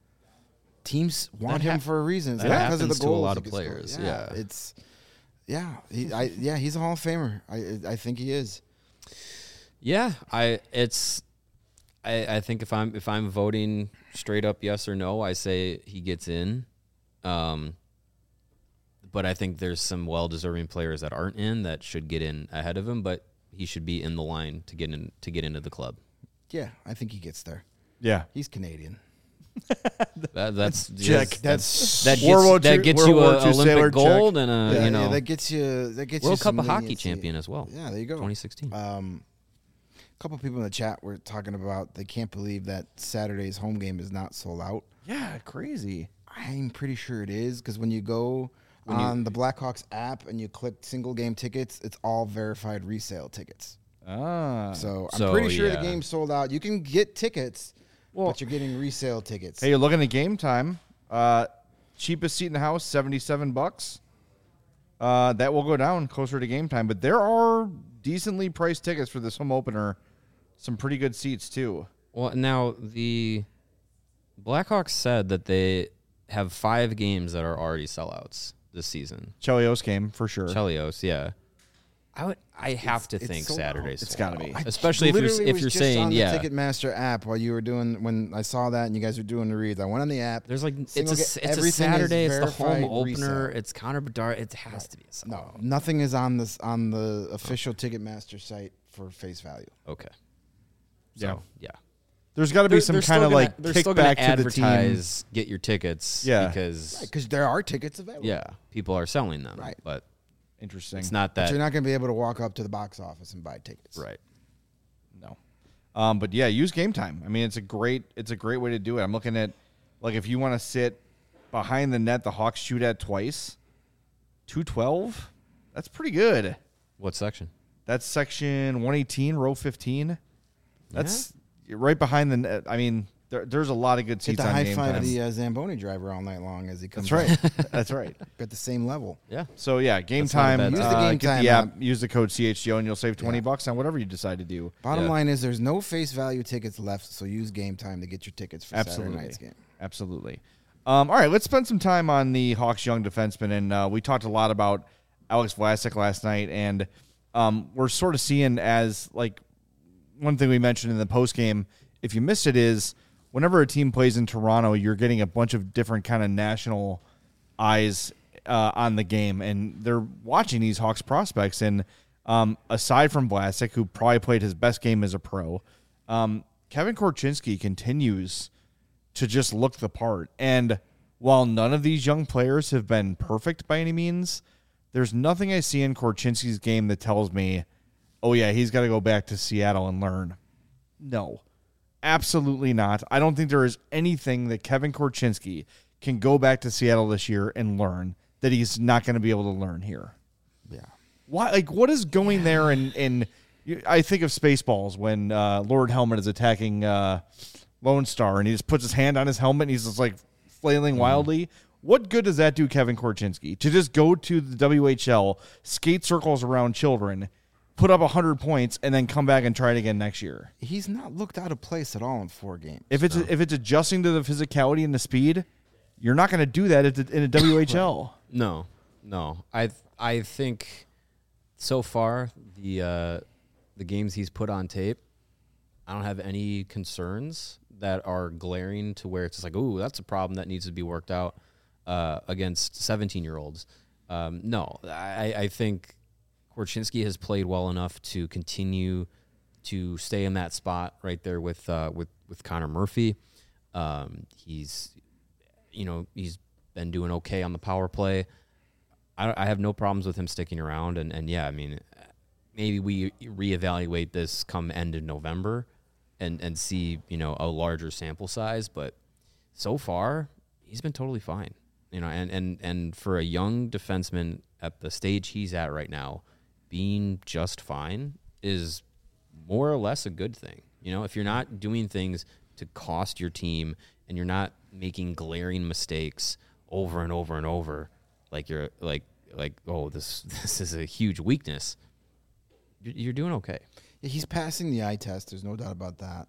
teams want That him hap- for a reason. It's that not because of the happens to a goals lot he of gets scored. players, Yeah, yeah. it's. Yeah, he, I, yeah, he's a Hall of Famer. I, I think he is. Yeah, I it's I, I think if I'm if I'm voting straight up yes or no, I say he gets in. Um but I think there's some well deserving players that aren't in that should get in ahead of him, but he should be in the line to get in to get into the club. Yeah, I think he gets there. Yeah. He's Canadian. That, that's Check. yes, That's that World War gets, that Two- gets World you War a Two sailor Olympic gold and a yeah, you know yeah, that gets you. That gets World you Cup some of Hockey leniency. champion as well. Yeah, there you go. twenty sixteen. Um, a couple people in the chat were talking about they can't believe that Saturday's home game is not sold out. Yeah, crazy. I'm pretty sure it is because when you go on the Blackhawks app and you click single game tickets, it's all verified resale tickets. Ah. So I'm So, pretty sure yeah. the game's sold out. You can get tickets, Well- but you're getting resale tickets. Hey, you're looking at game time. Uh, cheapest seat in the house, seventy-seven bucks. Uh, that will go down closer to game time, but there are decently priced tickets for this home opener. Some pretty good seats too. Well, now the Blackhawks said that they have five games that are already sellouts this season. Chelios game for sure. Chelios, yeah. I would. I have to it's think sold out. Saturdays. It's sold gotta be. out. I especially if you're Literally if was you're just saying on the yeah. Ticketmaster app while you were doing when I saw that and you guys were doing the reads. I went on the app. There's like it's Single a ga- it's a everything is Saturday. It's the home verified opener. resale. It's Connor Bedard. It has to be a sellout. No, nothing is on this on the official Ticketmaster site for face value. Okay. Yeah. So, yeah. There's got to be They're- some they're kind still of gonna- like they're still gonna kickback to the team. advertise, get your tickets. Yeah. Because Because there are tickets available. yeah, people are selling them. Right. But Interesting. it's not But that you're not going to be able to walk up to the box office and buy tickets. right. No. Um, but yeah, use game time. I mean, it's a great it's a great way to do it. I'm looking at like if you want to sit behind the net, the Hawks shoot at twice, two twelve. That's pretty good. What section? That's section one eighteen, row fifteen. That's right behind the net. I mean, there, there's a lot of good Get seats to on high game five time. the uh, Zamboni driver all night long as he comes. That's right. up That's right. at the same level. Yeah. So yeah, game That's not a time. bad Use time. the uh, game get time the app. app. Use the code C H G O and you'll save twenty Yeah. bucks on whatever you decide to do. Bottom Yeah. line is there's no face value tickets left, so use game time to get your tickets for Absolutely. Saturday night's game. Absolutely. Um, all right, let's spend some time on the Hawks' young defenseman, and uh, we talked a lot about Alex Vlasic last night, and um, we're sort of seeing as like one thing we mentioned in the post game. If you missed it, is whenever a team plays in Toronto, you're getting a bunch of different kind of national eyes uh, on the game, and they're watching these Hawks prospects. And um, aside from Vlasic, who probably played his best game as a pro, um, Kevin Korchinski continues to just look the part. And while none of these young players have been perfect by any means, there's nothing I see in Korchinski's game that tells me, oh, yeah, he's got to go back to Seattle and learn. No, absolutely not. I don't think there is anything that Kevin Korchinski can go back to Seattle this year and learn that he's not going to be able to learn here. Yeah. Why? Like, what is going there? And and I think of Spaceballs when uh, Lord Helmet is attacking uh, Lone Star, and he just puts his hand on his helmet, and he's just like flailing mm. wildly. What good does that do, Kevin Korchinski, to just go to the W H L, skate circles around children, put up one hundred points, and then come back and try it again next year? He's not looked out of place at all in four games. If it's no. if it's adjusting to the physicality and the speed, you're not going to do that at the, in a W H L. No, no. I I think so far the uh, the games he's put on tape, I don't have any concerns that are glaring to where it's just like, ooh, that's a problem that needs to be worked out uh, against seventeen-year-olds. Um, no, I, I think Korchinski has played well enough to continue to stay in that spot right there with uh, with with Connor Murphy. Um, he's, you know, he's been doing okay on the power play. I, I have no problems with him sticking around, and, and yeah, I mean, maybe we reevaluate this come end of November, and and see, you know, a larger sample size. But so far, he's been totally fine, you know, and and and for a young defenseman at the stage he's at right now, being just fine is more or less a good thing. You know, if you're not doing things to cost your team and you're not making glaring mistakes over and over and over, like you're like like oh this this is a huge weakness, you're, you're doing okay. Yeah, he's passing the eye test. There's no doubt about that.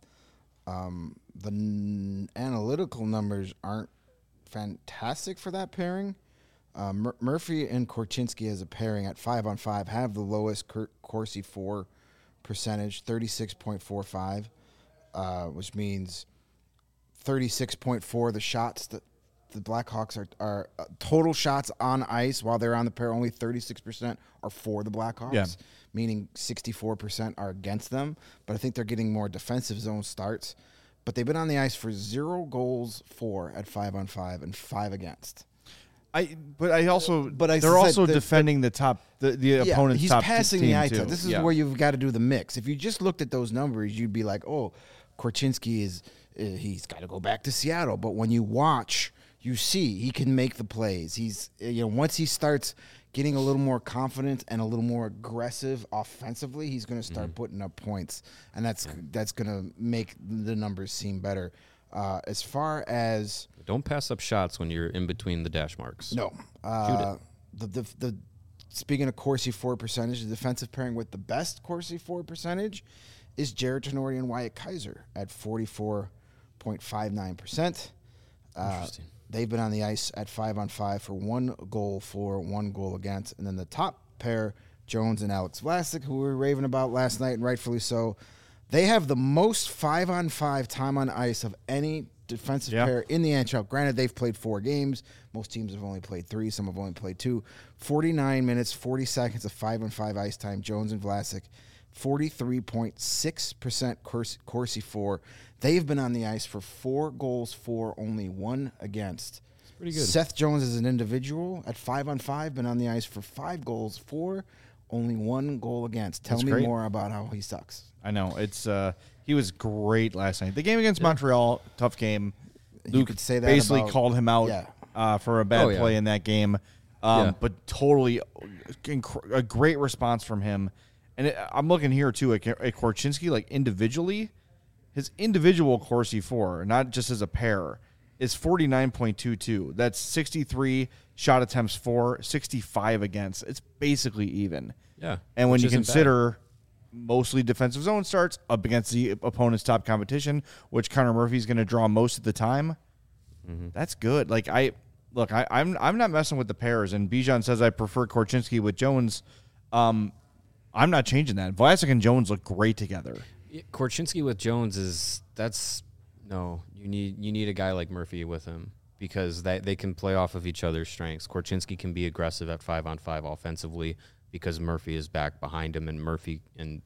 Um, the n- analytical numbers aren't fantastic for that pairing. Uh, Mur- Murphy and Korchinski as a pairing at five on five have the lowest Cor- Corsi four percentage, thirty-six point four five, uh, which means thirty-six point four the shots that the Blackhawks are, are uh, total shots on ice while they're on the pair, only thirty-six percent are for the Blackhawks, yeah. meaning sixty-four percent are against them. But I think they're getting more defensive zone starts. But they've been on the ice for zero goals for at five on five and five against. I, but I also, but I they're said also the, defending the top, the, the yeah, opponent's he's top passing team the eye too. test. This is yeah. where you've got to do the mix. If you just looked at those numbers, you'd be like, oh, Korchinski is, uh, he's got to go back to Seattle. But when you watch, you see he can make the plays. He's, you know, once he starts getting a little more confident and a little more aggressive offensively, he's going to start mm-hmm. putting up points, and that's that's going to make the numbers seem better. Uh, as far as don't pass up shots when you're in between the dash marks. No, uh, the, the the speaking of Corsi four percentage, the defensive pairing with the best Corsi four percentage is Jared Tenori and Wyatt Kaiser at forty four point five nine percent. Interesting. They've been on the ice at five on five for one goal for, one goal against, and then the top pair, Jones and Alex Vlasic, who we were raving about last night, and rightfully so. They have the most five-on-five time on ice of any defensive yeah. pair in the N H L. Granted, they've played four games. Most teams have only played three. Some have only played two. forty-nine minutes, forty seconds of five-on-five ice time. Jones and Vlasic, forty-three point six percent Corsi, Corsi four. They've been on the ice for four goals for, only one against. That's pretty good. Seth Jones as an individual at five-on-five, been on the ice for five goals for, only one goal against. Tell That's me great. more about how he sucks. I know. It's uh, he was great last night. The game against Montreal, tough game. You Luke could say that basically about, called him out yeah. uh, for a bad Oh, yeah. play in that game. Um, Yeah. But totally inc- a great response from him. And it, I'm looking here, too, at, at Korchinski, like individually. His individual Corsi four, not just as a pair, is forty-nine point two two. That's sixty-three shot attempts for, sixty-five against. It's basically even. Yeah. And when which you isn't consider bad. Mostly defensive zone starts up against the opponent's top competition, which Connor Murphy's going to draw most of the time, mm-hmm. that's good. Like I look, I, I'm I'm not messing with the pairs. And Bijan says I prefer Korchinski with Jones. Um, I'm not changing that. Vlasic and Jones look great together. Korchinski with Jones is that's no. You need you need a guy like Murphy with him because that they can play off of each other's strengths. Korchinski can be aggressive at five on five offensively because Murphy is back behind him, and Murphy and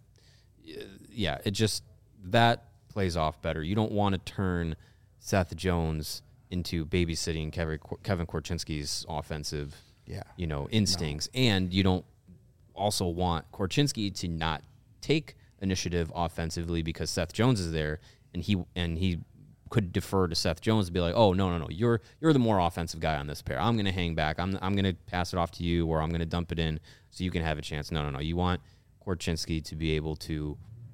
yeah, it just that plays off better. You don't want to turn Seth Jones into babysitting Kevin Kevin Korchinski's offensive, Yeah. you know, instincts, no. and you don't also want Korchinski to not take initiative offensively because Seth Jones is there, and he and he could defer to Seth Jones and be like, oh no no no, you're you're the more offensive guy on this pair. I'm gonna hang back. I'm I'm gonna pass it off to you, or I'm gonna dump it in so you can have a chance. No no no, you want Korchinski to be able to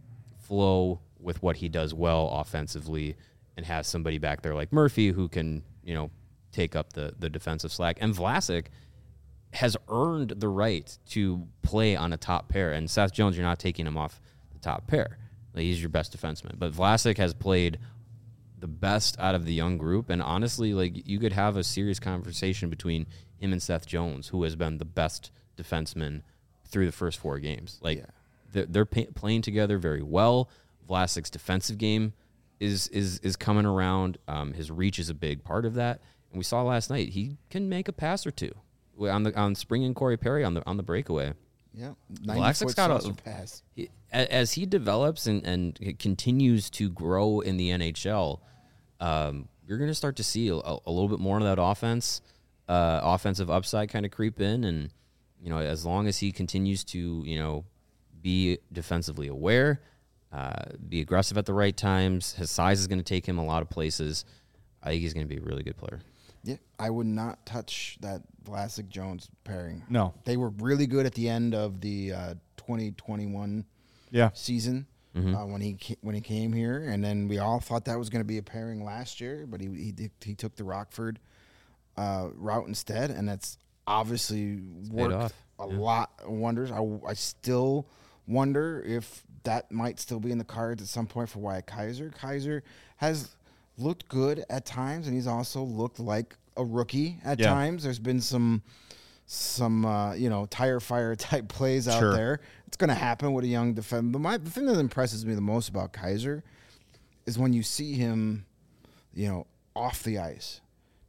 flow with what he does well offensively and have somebody back there like Murphy who can, you know, take up the, the defensive slack. And Vlasic has earned the right to play on a top pair. And Seth Jones, you're not taking him off the top pair. Like, he's your best defenseman. But Vlasic has played the best out of the young group. And honestly, like, you could have a serious conversation between him and Seth Jones, who has been the best defenseman through the first four games. Like, yeah. they're, they're pay- playing together very well. Vlasic's defensive game is is is coming around. Um, his reach is a big part of that. And we saw last night he can make a pass or two on the on Spring and Corey Perry on the on the breakaway. Yeah, Vlasic's got a pass. He, as he develops and and continues to grow in the N H L, um, you're going to start to see a, a little bit more of that offense, uh, offensive upside kind of creep in. And you know, as long as he continues to you know be defensively aware. Uh, be aggressive at the right times. His size is going to take him a lot of places. I think he's going to be a really good player. Yeah, I would not touch that Vlasic-Jones pairing. No. They were really good at the end of the uh, twenty twenty-one yeah. season mm-hmm. uh, when he when he came here, and then we all thought that was going to be a pairing last year, but he he, did, he took the Rockford uh, route instead, and that's obviously worked a yeah. lot of wonders. I, I still wonder if that might still be in the cards at some point for Wyatt Kaiser. Kaiser has looked good at times, and he's also looked like a rookie at yeah. times. There's been some, some uh, you know, tire fire type plays out sure. there. It's going to happen with a young defender. My, the thing that impresses me the most about Kaiser is when you see him, you know, off the ice.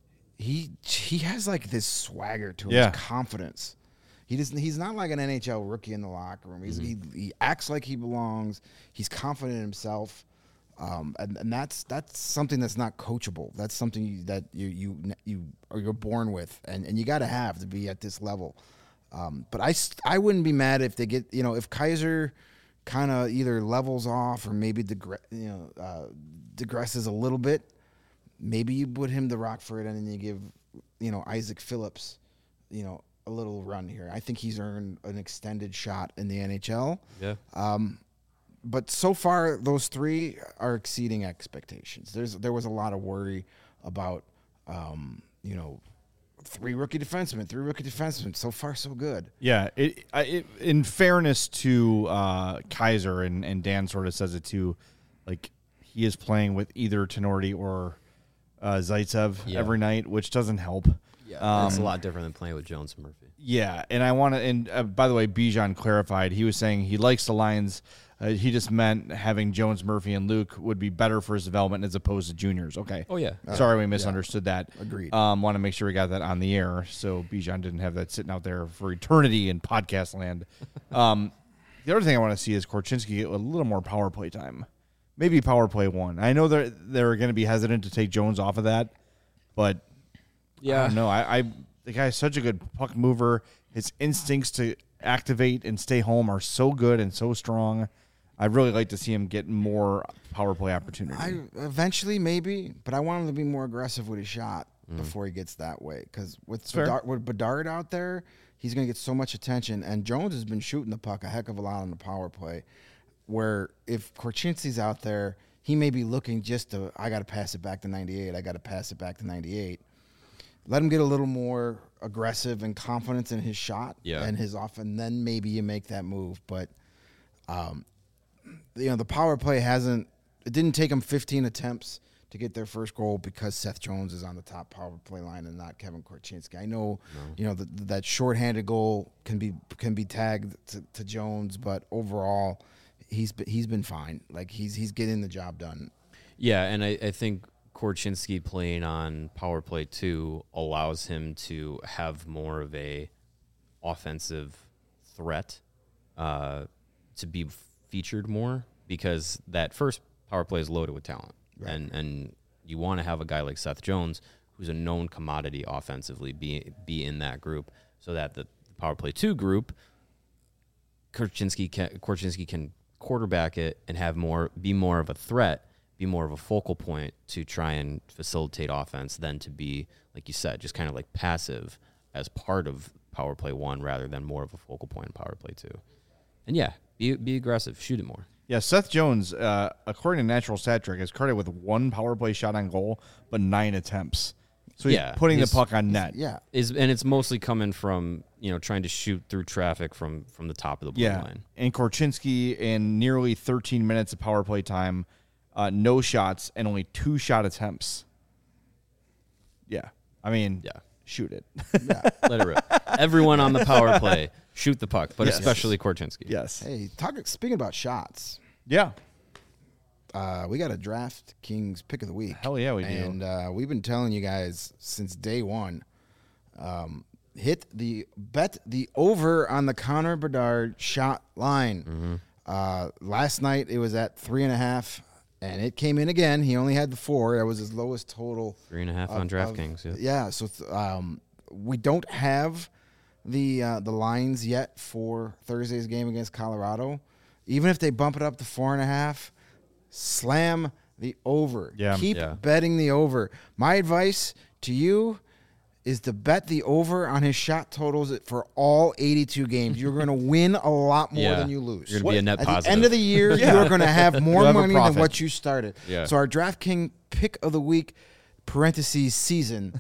He he has like this swagger to him, yeah. his confidence. He doesn't. He's not like an N H L rookie in the locker room. He's, mm-hmm. he he acts like he belongs. He's confident in himself, um, and, and that's that's something that's not coachable. That's something you, that you you you or you're born with, and, and you got to have to be at this level. Um, but I I wouldn't be mad if they get you know if Kaiser kind of either levels off or maybe degre- you know uh, digresses a little bit. Maybe you put him to Rockford and then you give you know Isaac Phillips, you know. a little run here. I think he's earned an extended shot in the N H L. Yeah. Um, but so far, those three are exceeding expectations. There's there was a lot of worry about, um, you know, three rookie defensemen, three rookie defensemen. So far, so good. Yeah. It, it in fairness to uh, Kaiser, and, and Dan sort of says it too, like he is playing with either Tenorti or uh, Zaitsev yeah. every night, which doesn't help. Yeah, um, it's a lot different than playing with Jones and Murphy. Yeah, and I want to. And uh, by the way, Bijan clarified. He was saying he likes the lines. Uh, he just meant having Jones, Murphy, and Luke would be better for his development as opposed to juniors. Okay. Oh yeah. Sorry, we misunderstood yeah. that. Agreed. Um, want to make sure we got that on the air, so Bijan didn't have that sitting out there for eternity in podcast land. um, the other thing I want to see is Korchinski get a little more power play time. Maybe power play one. I know they're they're going to be hesitant to take Jones off of that, but. Yeah, I don't know. I, I the guy's such a good puck mover. His instincts to activate and stay home are so good and so strong. I'd really like to see him get more power play opportunity. I eventually maybe, but I want him to be more aggressive with his shot mm. before he gets that way. Because with Bedard, with Bedard out there, he's going to get so much attention. And Jones has been shooting the puck a heck of a lot on the power play. Where if Korchinski's out there, he may be looking just to I got to pass it back to ninety-eight. I got to pass it back to ninety-eight. Let him get a little more aggressive and confidence in his shot yeah. and his off, and then maybe you make that move. But, um, you know, the power play hasn't – it didn't take them fifteen attempts to get their first goal because Seth Jones is on the top power play line and not Kevin Korchinski. I know, no. you know, the, that shorthanded goal can be can be tagged to, to Jones, but overall, he's been, he's been fine. Like, he's he's getting the job done. Yeah, and I, I think – Korchinski playing on power play two allows him to have more of a offensive threat uh, to be featured more because that first power play is loaded with talent. Right. And and you want to have a guy like Seth Jones who's a known commodity offensively be be in that group, so that the power play two group, Korchinski can, Korchinski can quarterback it and have more be more of a threat, be more of a focal point to try and facilitate offense than to be, like you said, just kind of like passive as part of power play one rather than more of a focal point in power play two. And yeah, be be aggressive, shoot it more. Yeah, Seth Jones, uh, according to Natural Stat Trick, is credited with one power play shot on goal, but nine attempts. So he's Yeah, putting he's- the puck on net. Yeah. Is and it's mostly coming from, you know, trying to shoot through traffic from from the top of the blue Yeah, line. and Korchinski in nearly thirteen minutes of power play time, uh, no shots and only two shot attempts. Yeah, I mean, Yeah. shoot it. Let it rip. Everyone on the power play, shoot the puck, but Yes. especially Korchinski. Yes. Hey, talk, speaking about shots, Yeah. uh, we got a DraftKings pick of the week. Hell yeah, we do. And uh, we've been telling you guys since day one, um, hit the bet the over on the Connor Bedard shot line. Mm-hmm. Uh, last night it was at three and a half, and it came in again. He only had the four. That was his lowest total. Three and a half of- on of- DraftKings. Yeah. Yeah, so th- um, we don't have the uh, the lines yet for Thursday's game against Colorado. Even if they bump it up to four and a half, slam the over. Yeah. Keep Yeah. betting the over. My advice to you is to bet the over on his shot totals for all eighty-two games. You're going to win a lot more Yeah. than you lose. You're gonna be a net At positive. the end of the year, Yeah. you're going to have more You'll have a money than profit. what you started. Yeah. So our DraftKings pick of the week, parentheses season,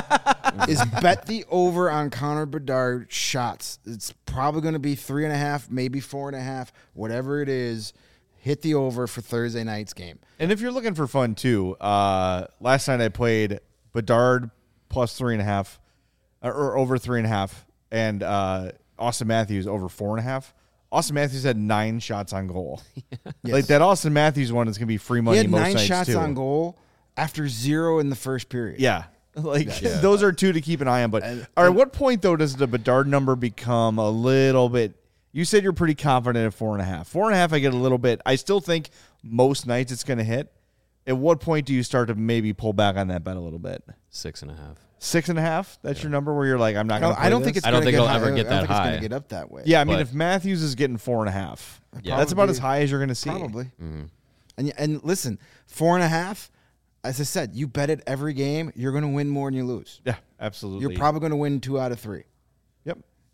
is bet the over on Connor Bedard shots. It's probably going to be three and a half, maybe four and a half, whatever it is. Hit the over for Thursday night's game. And if you're looking for fun too, uh, last night I played Bedard plus three and a half, or, or over three and a half, and uh, Austin Matthews over four and a half. Austin Matthews had nine shots on goal. Like that Austin Matthews one is gonna be free money He had most nine nights shots too. on goal after zero in the first period. Yeah. Like those are two to keep an eye on. But And- all right, what point though does the Bedard number become a little bit? You said you're pretty confident at four and a half. Four and a half, I get a little bit. I still think most nights it's going to hit. At what point do you start to maybe pull back on that bet a little bit? Six and a half. Six and a half. That's your number where you're like, I'm not I going don't, to. I don't think it's. I don't gonna think get it'll high. ever get I that don't think it's high. going to get up that way. Yeah, I mean, but- if Matthews is getting four and a half, Yeah. that's about Probably. as high as you're going to see. Probably. Mm-hmm. And and listen, four and a half. As I said, you bet it every game. You're going to win more than you lose. Yeah, absolutely. You're probably going to win two out of three. Yep.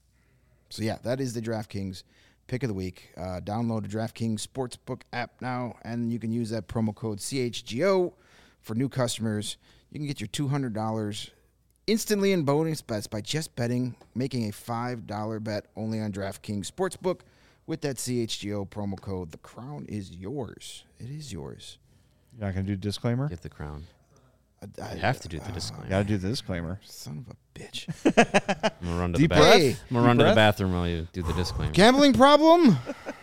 So yeah, that is the DraftKings pick of the week. Uh, download the DraftKings Sportsbook app now, and you can use that promo code C H G O for new customers. You can get your two hundred dollars instantly in bonus bets by just betting, making a five dollar bet only on DraftKings Sportsbook with that C H G O promo code. The crown is yours. It is yours. You're not going to do disclaimer? Give the crown. I, I You have to do the disclaimer. Got to do the disclaimer. Son of a bitch. I'm gonna run to Deep the bathroom. breath. I'm gonna run Deep to the breath. bathroom while you do the disclaimer. Gambling problem?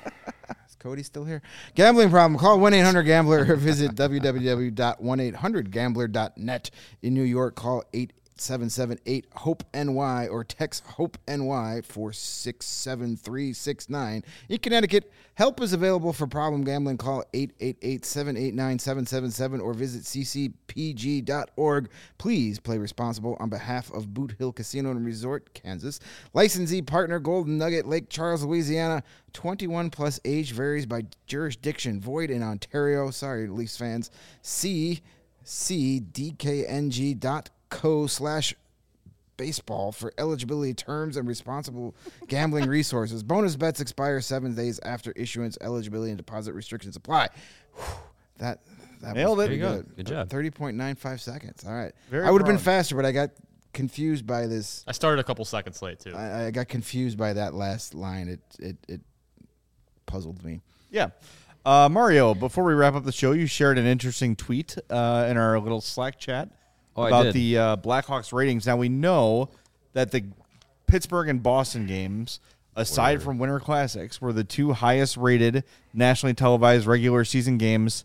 Is Cody still here? Gambling problem. Call one eight hundred gambler or visit w w w dot one eight hundred gambler dot net. In New York, call eight seven seven eight hope N Y or text HOPE-NY four six seven three six nine. In Connecticut, help is available for problem gambling. Call eight eight eight, seven eight nine, seven seven seven or visit c c p g dot org. Please play responsible on behalf of Boot Hill Casino and Resort, Kansas. Licensee partner Golden Nugget, Lake Charles, Louisiana. twenty-one plus age varies by jurisdiction. Void in Ontario. Sorry, Leafs fans. See c d k n g dot co slash baseball for eligibility terms and responsible gambling resources. Bonus bets expire seven days after issuance. Eligibility and deposit restrictions apply. Whew, that that Nailed was it. pretty There you go. good. Good job. thirty point nine five seconds. All right. Very I would have been proud. faster, but I got confused by this. I started a couple seconds late too. I, I got confused by that last line. It it it puzzled me. Yeah. Uh, Mario, before we wrap up the show, you shared an interesting tweet uh, in our little Slack chat Oh, I about did. the uh, Blackhawks ratings. Now, we know that the Pittsburgh and Boston games, aside from Winter Classics, were the two highest rated nationally televised regular season games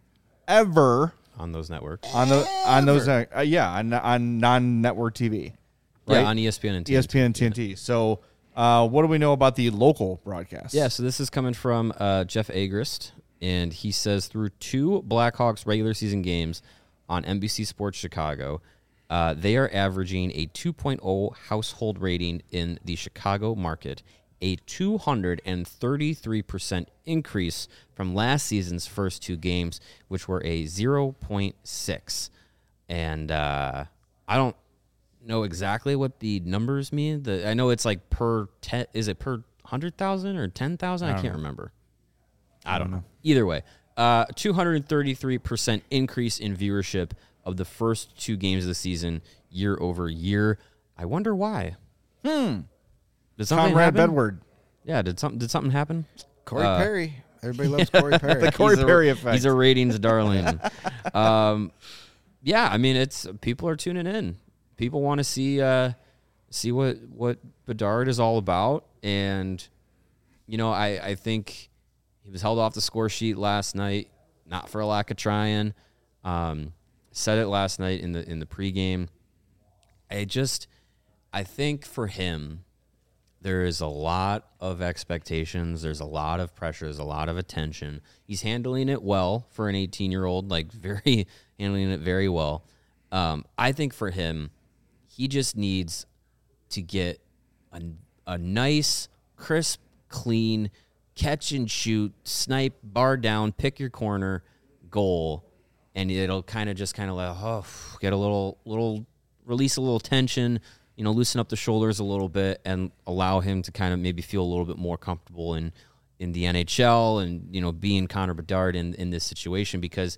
ever on those networks. on the on those uh, uh, yeah on, on non-network T V. Right? Yeah, on E S P N and T E N S T. P N and T N T. So, uh, what do we know about the local broadcast? Yeah, so this is coming from uh, Jeff Agrist, and he says through two Blackhawks regular season games on N B C Sports Chicago, Uh, they are averaging a two point oh household rating in the Chicago market, a two hundred thirty-three percent increase from last season's first two games, which were a zero point six. And uh, I don't know exactly what the numbers mean. The, I know it's like per ten. Is it per one hundred thousand or ten thousand? I, I can't know. remember. I don't, I don't know. know. Either way, uh, two hundred thirty-three percent increase in viewership of the first two games of the season year over year. I wonder why. Hmm. Did something Conrad happen? Bedward. Yeah, did something did something happen? Corey uh, Perry. Everybody loves Corey Perry. The Corey he's Perry a, effect. He's a ratings darling. um, yeah, I mean, it's people are tuning in. People want to see uh, see what what Bedard is all about, and you know, I I think he was held off the score sheet last night, not for a lack of trying. Um, said it last night in the in the pregame. I just I think for him, there is a lot of expectations. There's a lot of pressure. There's a lot of attention. He's handling it well for an eighteen-year-old, like very handling it very well. Um, I think for him, he just needs to get a, a nice, crisp, clean, catch and shoot, snipe, bar down, pick your corner goal, and it'll kind of just kind of like, oh, get a little, little, release a little tension, you know, loosen up the shoulders a little bit and allow him to kind of maybe feel a little bit more comfortable in, in the N H L and, you know, being Connor Bedard in, in this situation, because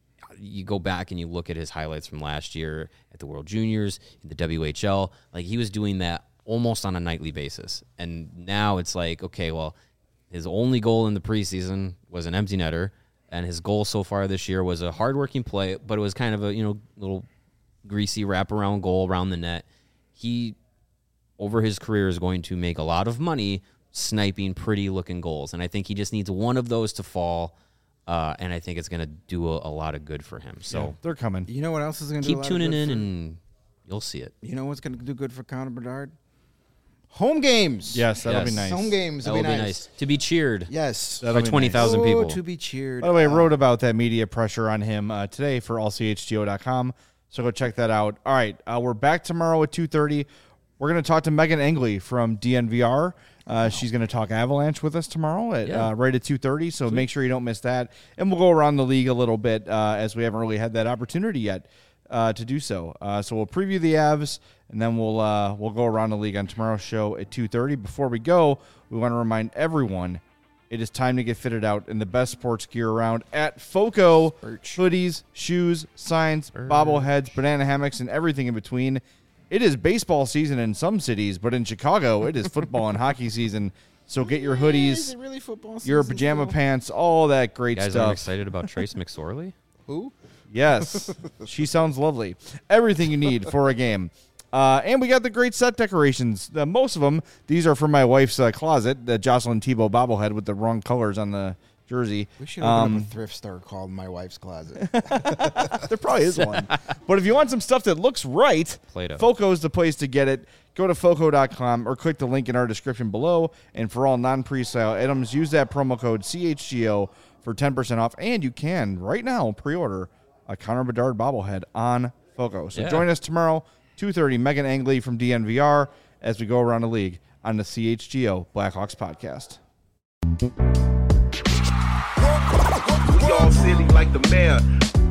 you go back and you look at his highlights from last year at the World Juniors, in the W H L, like he was doing that almost on a nightly basis. And now it's like, okay, well, his only goal in the preseason was an empty netter, and his goal so far this year was a hardworking play, but it was kind of a, you know, little greasy wraparound goal around the net. He, over his career, is going to make a lot of money sniping pretty-looking goals, and I think he just needs one of those to fall, uh, and I think it's going to do a, a lot of good for him. So yeah, they're coming. You know what else is going to do a keep lot tuning of good in, for, and you'll see it. You know what's going to do good for Connor Bedard? Home games. Yes, that'll Yes. be nice. Home games That will will be be nice. nice. To be cheered Yes. That'll by be twenty thousand Oh, people. to be cheered. By the way, I Uh, wrote about that media pressure on him uh, today for all c h g o dot com, so go check that out. All right, uh, we're back tomorrow at two thirty. We're going to talk to Megan Engley from D N V R. Uh, she's going to talk Avalanche with us tomorrow at Yeah. uh, right at two thirty, so make sure you don't miss that. And we'll go around the league a little bit uh, as we haven't really had that opportunity yet uh, to do so. Uh, so we'll preview the Avs, and then we'll uh, we'll go around the league on tomorrow's show at two thirty. Before we go, we want to remind everyone it is time to get fitted out in the best sports gear around at FOCO. Birch. Hoodies, shoes, signs, bobbleheads, banana hammocks, and everything in between. It is baseball season in some cities, but in Chicago, it is football and hockey season. So get your Is hoodies, it really football your season pajama still? pants, all that great You guys stuff. aren't excited about Trace McSorley? Who? Yes, she sounds lovely. Everything you need for a game. Uh, and we got the great set decorations. Uh, most of them, these are from my wife's uh, closet, the Jocelyn Tebow bobblehead with the wrong colors on the jersey. We should open Um, up a thrift store called My Wife's Closet. There probably is one. But if you want some stuff that looks right, Play-Doh. FOCO is the place to get it. Go to foco dot com or click the link in our description below. And for all non-presale items, use that promo code C H G O for ten percent off. And you can, right now, pre-order a Connor Bedard bobblehead on FOCO. So Yeah. join us tomorrow, two thirty, Megan Engley from D N V R, as we go around the league on the C H G O Blackhawks podcast. We all silly like the mayor.